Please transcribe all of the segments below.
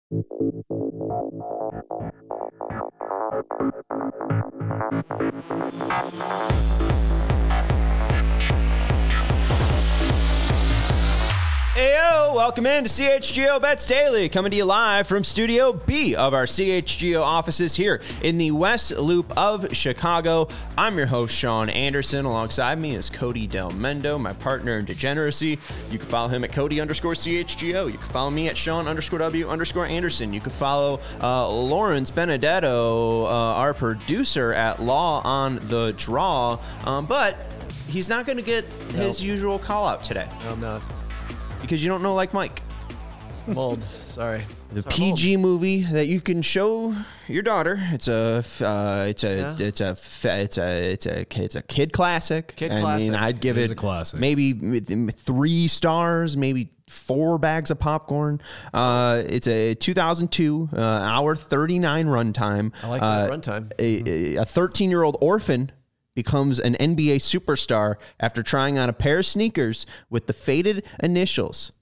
Heyo, welcome in to CHGO Bets Daily, coming to you live from Studio B of our CHGO offices here in the West Loop of Chicago. I'm your host, Sean Anderson. Alongside me is Cody Del Mendo, my partner in degeneracy. You can follow him at Cody_CHGO. You can follow me at Sean_W_Anderson. You can follow Lawrence Benedetto, our producer, at Law on the Draw. But he's not going to get his usual call out today. No, I'm not. Because you don't know like Mike. I'm old. Sorry. The PG movie that you can show your daughter. It's a kid classic. I mean, I'd give it a classic. Maybe 3 stars, maybe 4 bags of popcorn. It's a 2002 hour 39 runtime. I like that runtime. A 13-year-old orphan becomes an NBA superstar after trying on a pair of sneakers with the faded initials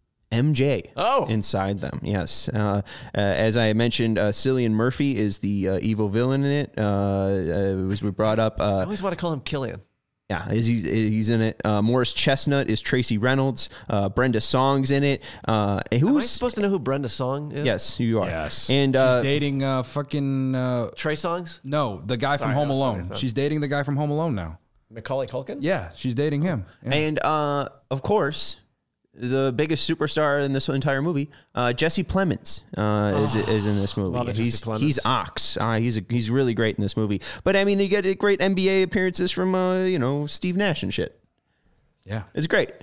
MJ inside them. Yes. As I mentioned, Cillian Murphy is the evil villain in it. As we brought up. I always want to call him Killian. Yeah, he's in it. Morris Chestnut is Tracy Reynolds. Brenda Song's in it. Am I supposed to know who Brenda Song is? Yes, you are. Yes. And she's dating fucking... Trey Songz? No, the guy from Home Alone. She's dating the guy from Home Alone now. Macaulay Culkin? Yeah, she's dating him. Yeah. And, of course, the biggest superstar in this entire movie, Jesse Plemons, is in this movie. He's Ox. He's really great in this movie. But I mean, you get great NBA appearances from Steve Nash and shit. Yeah, it's great.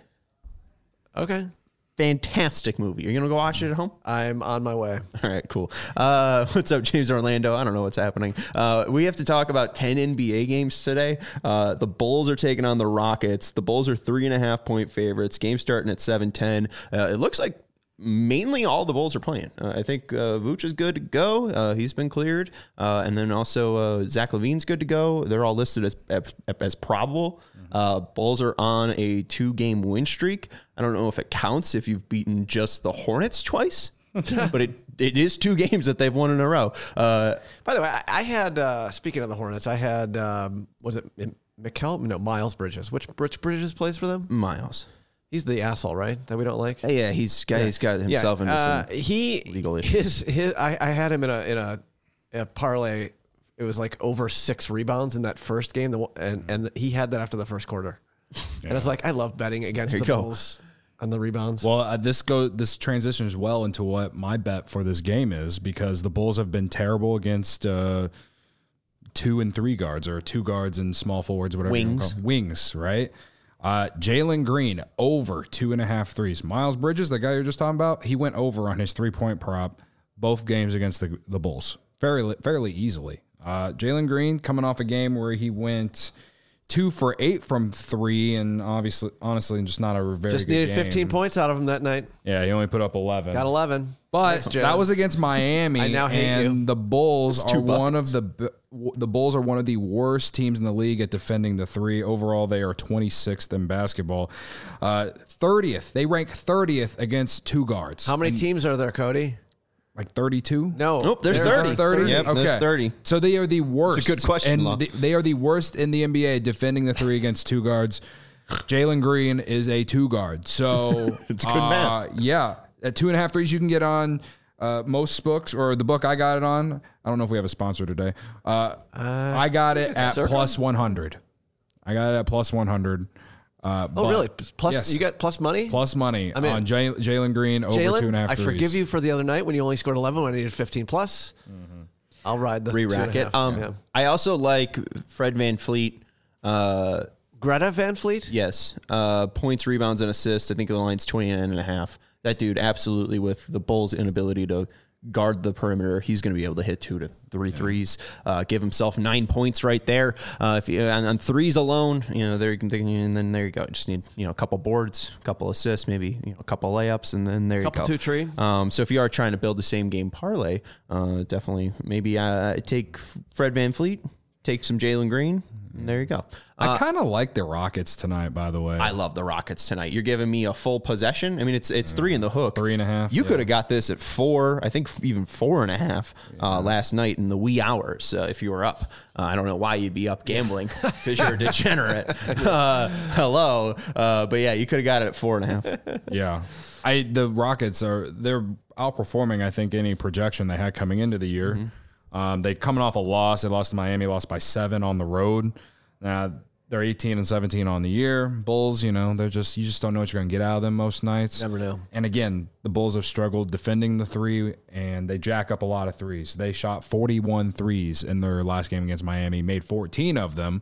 Okay. Fantastic movie. You're gonna go watch it at home? I'm on my way. All right, cool. What's up, James Orlando? I don't know what's happening. We have to talk about 10 NBA games today. The Bulls are taking on the Rockets. The Bulls are 3.5-point favorites. Game starting at 7:10. It looks like mainly all the Bulls are playing. I think Vooch is good to go. He's been cleared. And then also Zach LaVine's good to go. They're all listed as probable. Bulls are on a 2-game win streak. I don't know if it counts if you've beaten just the Hornets twice, but it is 2 games that they've won in a row. By the way, I had, speaking of the Hornets, I had, was it Miles Bridges. Which Bridges plays for them? Miles. He's the asshole, right? That we don't like. Yeah, he's got himself into some legal issues. I had him in a parlay. It was like over 6 rebounds in that first game, and he had that after the first quarter. Yeah. And I was like, I love betting against the Bulls on the rebounds. Well, this transitions well into what my bet for this game is, because the Bulls have been terrible against 2 and 3 guards, or 2 guards and small forwards, whatever. Wings, right? Jalen Green over 2.5 threes. Miles Bridges, the guy you're just talking about, he went over on his 3-point prop both games against the Bulls fairly easily. Jalen Green coming off a game where he went 2 for 8 from 3, and honestly, just not a very good game. Just needed 15 points out of him that night. Yeah, he only put up 11. Got 11. But that was against Miami. I now hate you. The Bulls are one of the worst teams in the league at defending the 3. Overall, they are 26th in basketball. 30th. They rank 30th against 2 guards. How many teams are there, Cody? Like 32? No. Nope, there's 30. 30? Yep, okay. there's 30. So they are the worst. It's a good question, And they are the worst in the NBA defending the 3 against 2 guards. Jalen Green is a 2 guard. So it's good math. Yeah. At 2.5 threes you can get on most books, or the book I got it on. I don't know if we have a sponsor today. I got it at plus 100. I got it at plus 100. Really? Plus, yes. You got plus money? Plus money on Jalen Green over 2.5 threes. I forgive you for the other night when you only scored 11 when I needed 15 plus. Mm-hmm. I'll ride the re-rack it. I also like Fred VanVleet. Greta VanVleet? Yes. Points, rebounds, and assists. I think the line's 29.5. That dude, absolutely, with the Bulls' inability to guard the perimeter, he's going to be able to hit 2 to 3 threes, give himself 9 points right there. If you on threes alone, and then there you go. Just need a couple boards, a couple assists, maybe a couple layups, and then there you go. Couple 2-3. So if you are trying to build the same game parlay, definitely maybe take Fred VanVleet, take some Jalen Green. There you go. I kind of like the Rockets tonight, by the way. I love the Rockets tonight. You're giving me a full possession. I mean, it's 3 in the hook. 3.5. You could have got this at 4, I think even 4.5 last night in the wee hours if you were up. I don't know why you'd be up gambling because you're a degenerate. Hello. But yeah, you could have got it at 4.5. Yeah. The Rockets they're outperforming, I think, any projection they had coming into the year. They coming off a loss. They lost to Miami, lost by 7 on the road. Now they're 18-17 on the year. Bulls, you just don't know what you're going to get out of them most nights. Never know. And again, the Bulls have struggled defending the 3, and they jack up a lot of threes. They shot 41 threes in their last game against Miami, made 14 of them.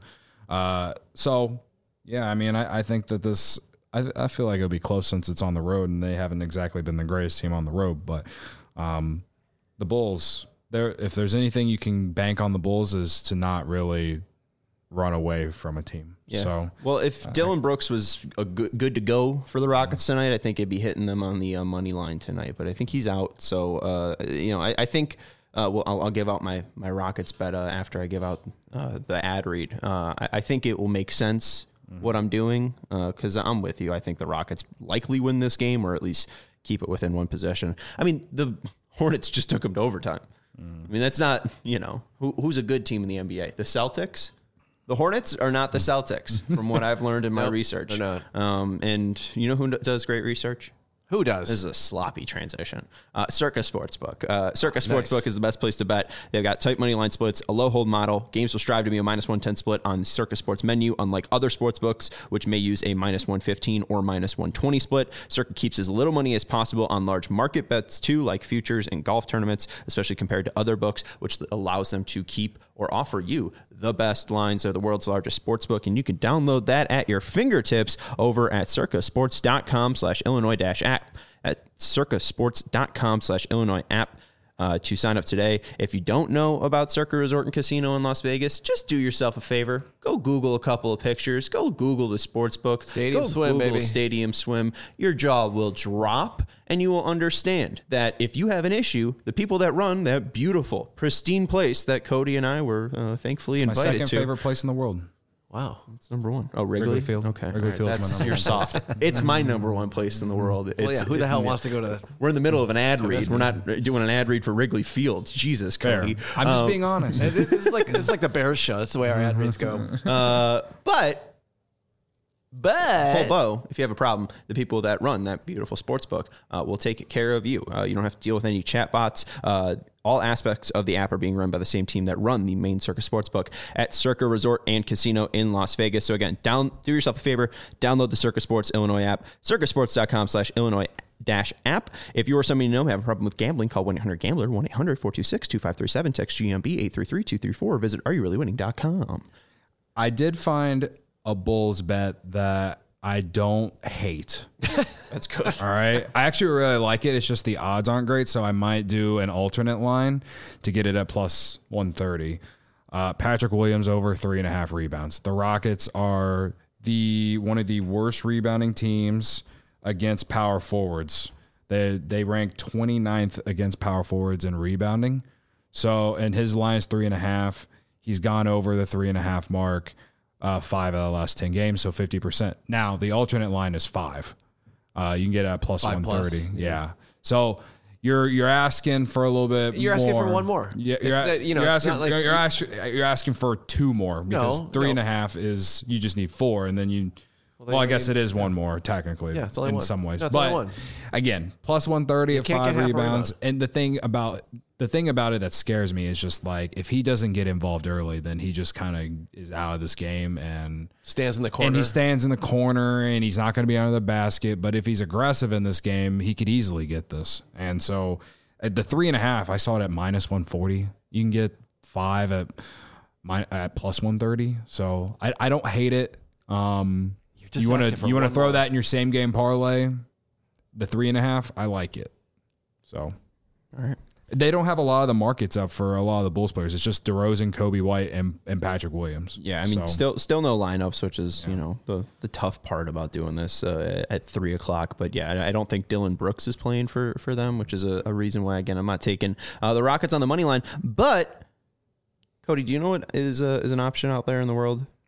So yeah, I mean, I think that this. I feel like it'll be close since it's on the road, and they haven't exactly been the greatest team on the road. But the Bulls, if there's anything you can bank on the Bulls is to not really run away from a team. Yeah. So, well, if Dillon Brooks was good to go for the Rockets tonight, I think it'd be hitting them on the money line tonight. But I think he's out. So, I think I'll give out my Rockets bet after I give out the ad read. I think it will make sense what I'm doing because I'm with you. I think the Rockets likely win this game or at least keep it within one possession. I mean, the Hornets just took them to overtime. I mean, that's not, who's a good team in the NBA? The Celtics? The Hornets are not the Celtics, from what I've learned in my research. They're not. And you know who does great research? Who does? This is a sloppy transition. Circa Sportsbook. Circa Sportsbook is the best place to bet. They've got tight money line splits, a low hold model. Games will strive to be a -110 split on the Circa Sports menu, unlike other sportsbooks, which may use a -115 or -120 split. Circa keeps as little money as possible on large market bets, too, like futures and golf tournaments, especially compared to other books, which allows them to keep or offer you the best lines of the world's largest sportsbook. And you can download that at your fingertips over at circasports.com/Illinois-app. At circasports.com/Illinois app to sign up today. If you don't know about Circa Resort and Casino in Las Vegas, just do yourself a favor. Go Google a couple of pictures. Go Google the sports book. Stadium Swim, Google baby. Stadium Swim. Your jaw will drop, and you will understand that if you have an issue, the people that run that beautiful, pristine place that Cody and I were thankfully my invited second to. favorite place in the world. Wow, that's number 1. Oh, Wrigley Field. Okay, Wrigley Field's my number you're 1. soft. It's my number 1 place in the world. Well, yeah, who the hell wants to go to? We're in the middle of an ad read. We're not doing an ad read for Wrigley Field. Jesus, Cody. I'm just being honest. It's like the Bears show. That's the way our ad reads go. But whole bow, if you have a problem, the people that run that beautiful sports book will take care of you. You don't have to deal with any chatbots. All aspects of the app are being run by the same team that run the main Circa Sportsbook at Circa Resort and Casino in Las Vegas. So again, do yourself a favor, download the Circa Sports Illinois app, circasports.com/Illinois-app. If you or somebody you know have a problem with gambling, call 1-800-GAMBLER, 1-800-426-2537, text GMB 833-234, or visit areyourreallywinning.com. I did find a Bulls bet that I don't hate. That's good. All right. I actually really like it. It's just the odds aren't great, so I might do an alternate line to get it at +130. Patrick Williams over 3.5 rebounds. The Rockets are one of the worst rebounding teams against power forwards. They rank 29th against power forwards in rebounding. So, and his line is 3.5. He's gone over the 3.5 mark 5 out of the last 10 games, so 50%. Now, the alternate line is 5. You can get it at +130. Yeah. So you're asking for a little bit. You're asking for one more. Yeah. You're asking for 2 more because 3.5 is you just need 4, and then you. Well, I guess it is one more technically. Yeah, it's only in one. some ways. No, it's but only one. Again, +130 at 5 rebounds. And the thing about it that scares me is just like if he doesn't get involved early, then he just kind of is out of this game and stands in the corner. And he stands in the corner and he's not going to be under the basket. But if he's aggressive in this game, he could easily get this. And so at the 3.5, I saw it at -140. You can get 5 at +130. So I don't hate it. You want to throw that in your same game parlay, the 3.5. I like it. So, all right. They don't have a lot of the markets up for a lot of the Bulls players. It's just DeRozan, Kobe White, and Patrick Williams. Yeah, I mean, still no lineups, which is the tough part about doing this at 3:00. But yeah, I don't think Dillon Brooks is playing for them, which is a reason why again I'm not taking the Rockets on the money line. But Cody, do you know what is an option out there in the world?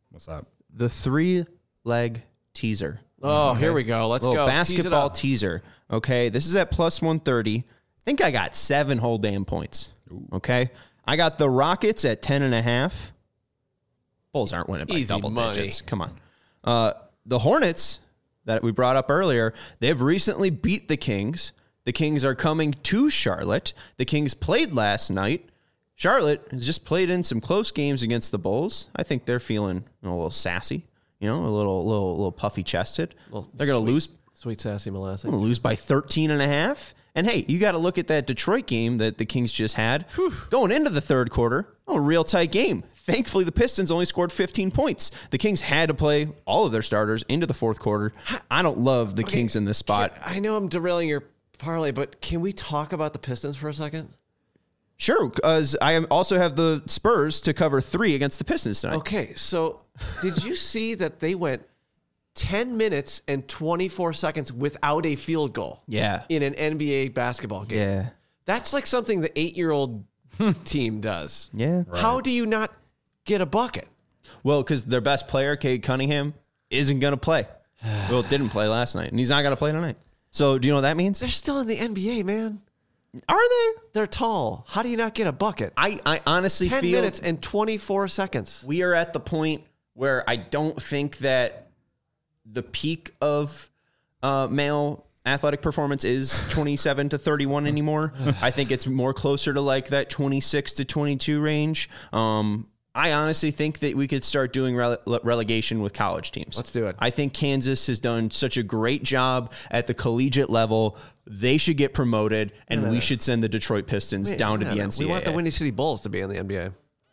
What's that? The 3-leg teaser. Oh, here we go. Let's go. Basketball teaser. Okay, this is at plus 130. I think I got 7 whole damn points. Okay, I got the Rockets at 10.5. Bulls aren't winning by Easy double money. digits. Come on. The Hornets that we brought up earlier, they've recently beat the Kings. The Kings are coming to Charlotte. The Kings played last night. Charlotte has just played in some close games against the Bulls. I think they're feeling a little sassy, a little puffy chested. They're going to lose. Sweet sassy molasses. Going to lose by 13.5. And hey, you got to look at that Detroit game that the Kings just had. Going into the third quarter, a real tight game. Thankfully, the Pistons only scored 15 points. The Kings had to play all of their starters into the fourth quarter. I don't love the Kings in this spot. I know I'm derailing your parlay, but can we talk about the Pistons for a second? Sure, because I also have the Spurs to cover 3 against the Pistons tonight. Okay, so did you see that they went 10 minutes and 24 seconds without a field goal? Yeah. In an NBA basketball game. Yeah. That's like something the 8-year-old team does. Yeah. Right. How do you not get a bucket? Well, because their best player, Cade Cunningham, isn't going to play. Well, didn't play last night, and he's not going to play tonight. So do you know what that means? They're still in the NBA, man. Are they? They're tall. How do you not get a bucket? I honestly 10 feel 10 minutes and 24 seconds. We are at the point where I don't think that the peak of male athletic performance is 27 to 31 anymore. I think it's more closer to like that 26 to 22 range. I honestly think that we could start doing relegation with college teams. Let's do it. I think Kansas has done such a great job at the collegiate level. They should get promoted, and we should send the Detroit Pistons down to the NCAA. We want the Windy City Bulls to be in the NBA.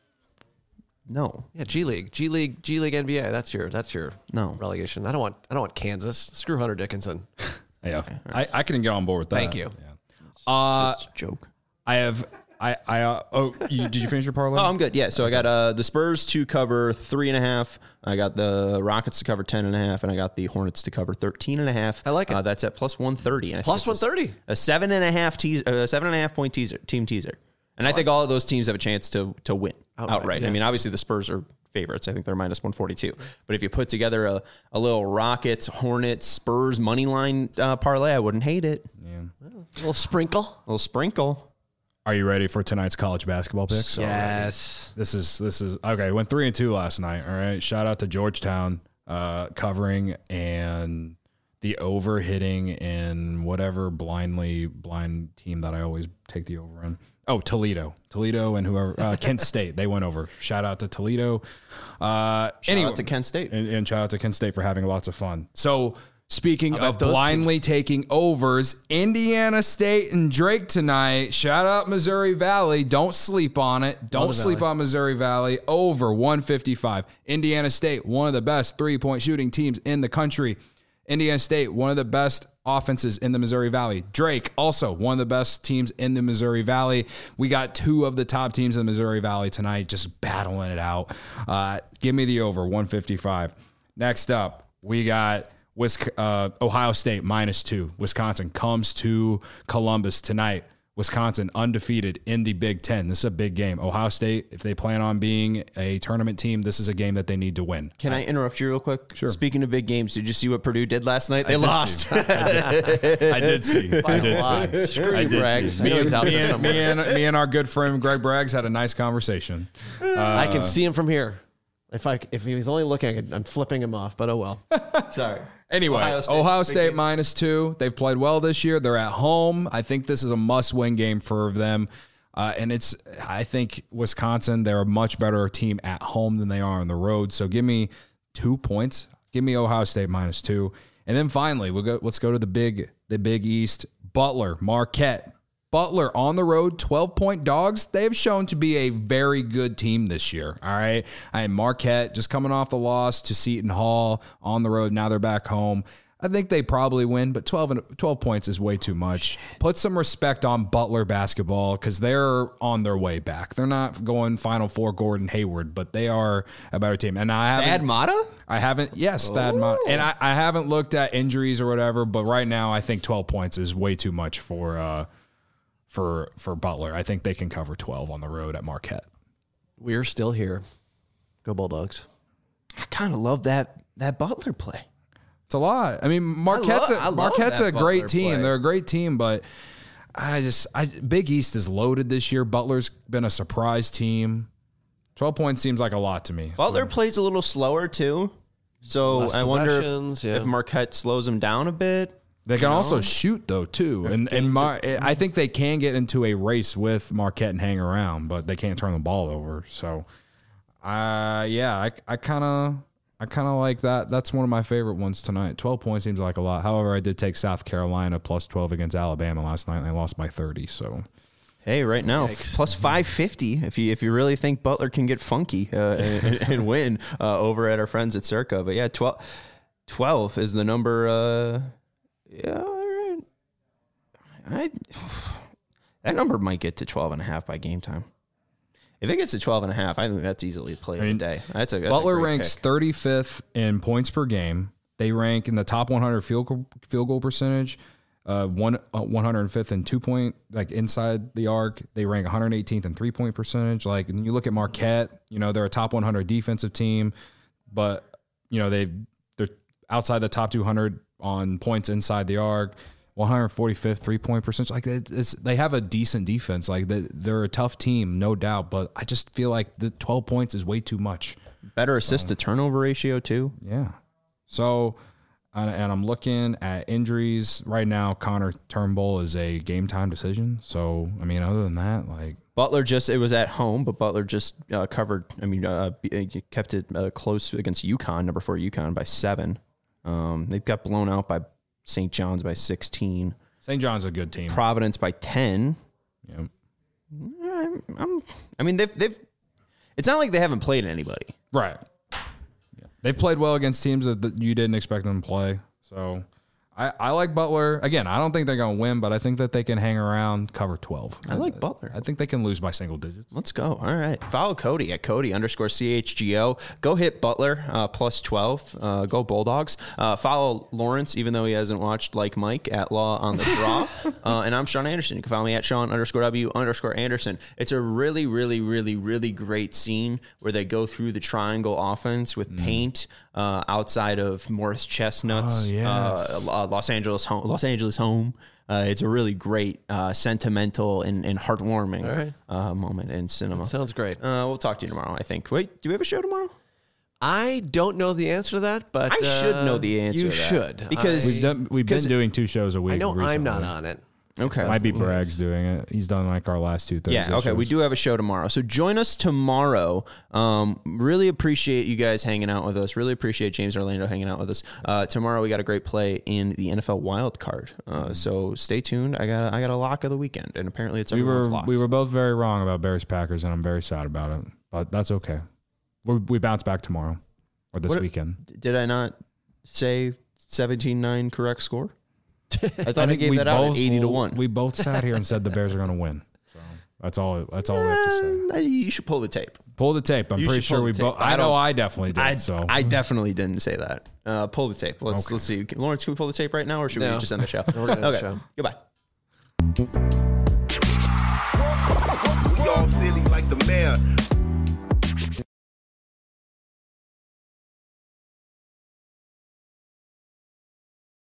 No. Yeah, G League NBA. That's your relegation. I don't want Kansas. Screw Hunter Dickinson. Yeah, okay. I can get on board with that. Thank you. Yeah. Just a joke. Did you finish your parlay? Oh, I'm good. Yeah. So I got the Spurs to cover 3.5. I got the Rockets to cover 10.5, and I got the Hornets to cover 13.5. I like it. That's at plus 130. Plus 130. A 7.5 point team teaser. And I think all of those teams have a chance to win outright. Yeah. I mean, obviously the Spurs are favorites. I think they're minus 142. But if you put together a little Rockets, Hornets, Spurs money line parlay, I wouldn't hate it. Yeah. A little sprinkle. Are you ready for tonight's college basketball picks? Yes. This is okay. Went 3-2 last night. All right. Shout out to Georgetown covering and the over hitting in whatever blind team that I always take the over in. Oh, Toledo and whoever Kent State, they went over. Shout out to Toledo. Shout out to Kent State and shout out to Kent State for having lots of fun. So speaking of blindly taking overs, Indiana State and Drake tonight. Shout out Missouri Valley. Don't sleep on it. Don't sleep on Missouri Valley. Over 155. Indiana State, one of the best 3-point shooting teams in the country. Indiana State, one of the best offenses in the Missouri Valley. Drake, also one of the best teams in the Missouri Valley. We got 2 of the top teams in the Missouri Valley tonight just battling it out. Give me the over, 155. Next up, we got Ohio State -2. Wisconsin comes to Columbus tonight. Wisconsin undefeated in the Big Ten. This is a big game. Ohio State, if they plan on being a tournament team, this is a game that they need to win. Can I interrupt you real quick? Sure. Speaking of big games, did you see what Purdue did last night? They lost. I did see. Me and our good friend Greg Braggs had a nice conversation. I can see him from here. If he was only looking, I'm flipping him off, but oh well. Sorry. Anyway, Ohio State -2. They've played well this year. They're at home. I think this is a must-win game for them. I think Wisconsin, they're a much better team at home than they are on the road. So give me 2 points. Give me Ohio State -2. And then finally, let's go to the Big East. Butler, Marquette. Butler on the road, 12-point dogs. They have shown to be a very good team this year. All right. Marquette just coming off the loss to Seton Hall on the road. Now they're back home. I think they probably win, but 12 points is way too much. Put some respect on Butler basketball because they're on their way back. They're not going Final Four Gordon Hayward, but they are a better team. And Thad Matta? I haven't. Yes, Thad Matta. And I haven't looked at injuries or whatever, but right now I think 12 points is way too much for Butler. I think they can cover 12 on the road at Marquette. We're still here. Go Bulldogs. kind of love that Butler play. It's a lot. I mean, Marquette's a great team. Play. They're a great team, but Big East is loaded this year. Butler's been a surprise team. 12 points seems like a lot to me. Butler plays a little slower too, so I wonder if Marquette slows them down a bit. They can also shoot though too, I think they can get into a race with Marquette and hang around, but they can't turn the ball over. So, I kind of like that. That's one of my favorite ones tonight. 12 points seems like a lot. However, I did take South Carolina plus 12 against Alabama last night, and they lost by 30. So, hey, right now plus 550. If you really think Butler can get funky and win over at our friends at Circa, but yeah, 12 is the number. Yeah, all right. That number might get to 12.5 by game time. If it gets to 12.5, I think that's easily a play of the day. Butler ranks 35th in points per game. They rank in the top 100 field goal percentage, 105th in 2-point, like inside the arc. They rank 118th in 3-point percentage. Like, and you look at Marquette, they're a top 100 defensive team, but they're outside the top 200 on points inside the arc. 145th 3-point percentage. Like they have a decent defense. Like they're a tough team, no doubt. But I just feel like the 12 points is way too much. Better assist to turnover ratio too. Yeah. So, and I'm looking at injuries right now. Connor Turnbull is a game time decision. So I mean, other than that, like Butler it was at home, but Butler just covered. I mean, kept it close against UConn, number 4 UConn by 7. They've got blown out by St. John's by 16. St. John's a good team. Providence by 10. Yep. I mean, they've. It's not like they haven't played anybody, right? Yeah. They've played well against teams that you didn't expect them to play. So, I like Butler. Again, I don't think they're going to win, but I think that they can hang around, cover 12. I like Butler. I think they can lose by single digits. Let's go. All right. Follow Cody at Cody_CHGO. Go hit Butler plus 12. Go Bulldogs. Follow Lawrence, even though he hasn't watched like Mike, at Law on the Draw. And I'm Sean Anderson. You can follow me at Sean_W_Anderson. It's a really, really, really, really great scene where they go through the triangle offense with paint outside of Morris Chestnut's Los Angeles home. It's a really great, sentimental and heartwarming moment in cinema. That sounds great. We'll talk to you tomorrow, I think. Wait, do we have a show tomorrow? I don't know the answer to that, but I should know the answer. You to that. should, because we've been doing 2 shows a week. I know recently. I'm not on it. Okay. Might be Bragg's doing it. He's done like our last 2 Thursday Yeah, okay. shows. We do have a show tomorrow. So join us tomorrow. Really appreciate you guys hanging out with us. Really appreciate James Orlando hanging out with us. Tomorrow we got a great play in the NFL wild card. So stay tuned. I got a lock of the weekend, and apparently it's everyone's lock. We were both very wrong about Bears Packers, and I'm very sad about it. But that's okay. We bounce back tomorrow or this weekend. Did I not say 17-9 correct score? I thought I gave that out at 80-1. We both sat here and said the Bears are going to win. So that's all we have to say. You should pull the tape. Pull the tape. I'm pretty sure we both. I know I definitely did. I definitely didn't say that. Pull the tape. Let's see. Lawrence, can we pull the tape right now, or should we just end the show? We're gonna end the show. Goodbye. We all silly like the mayor.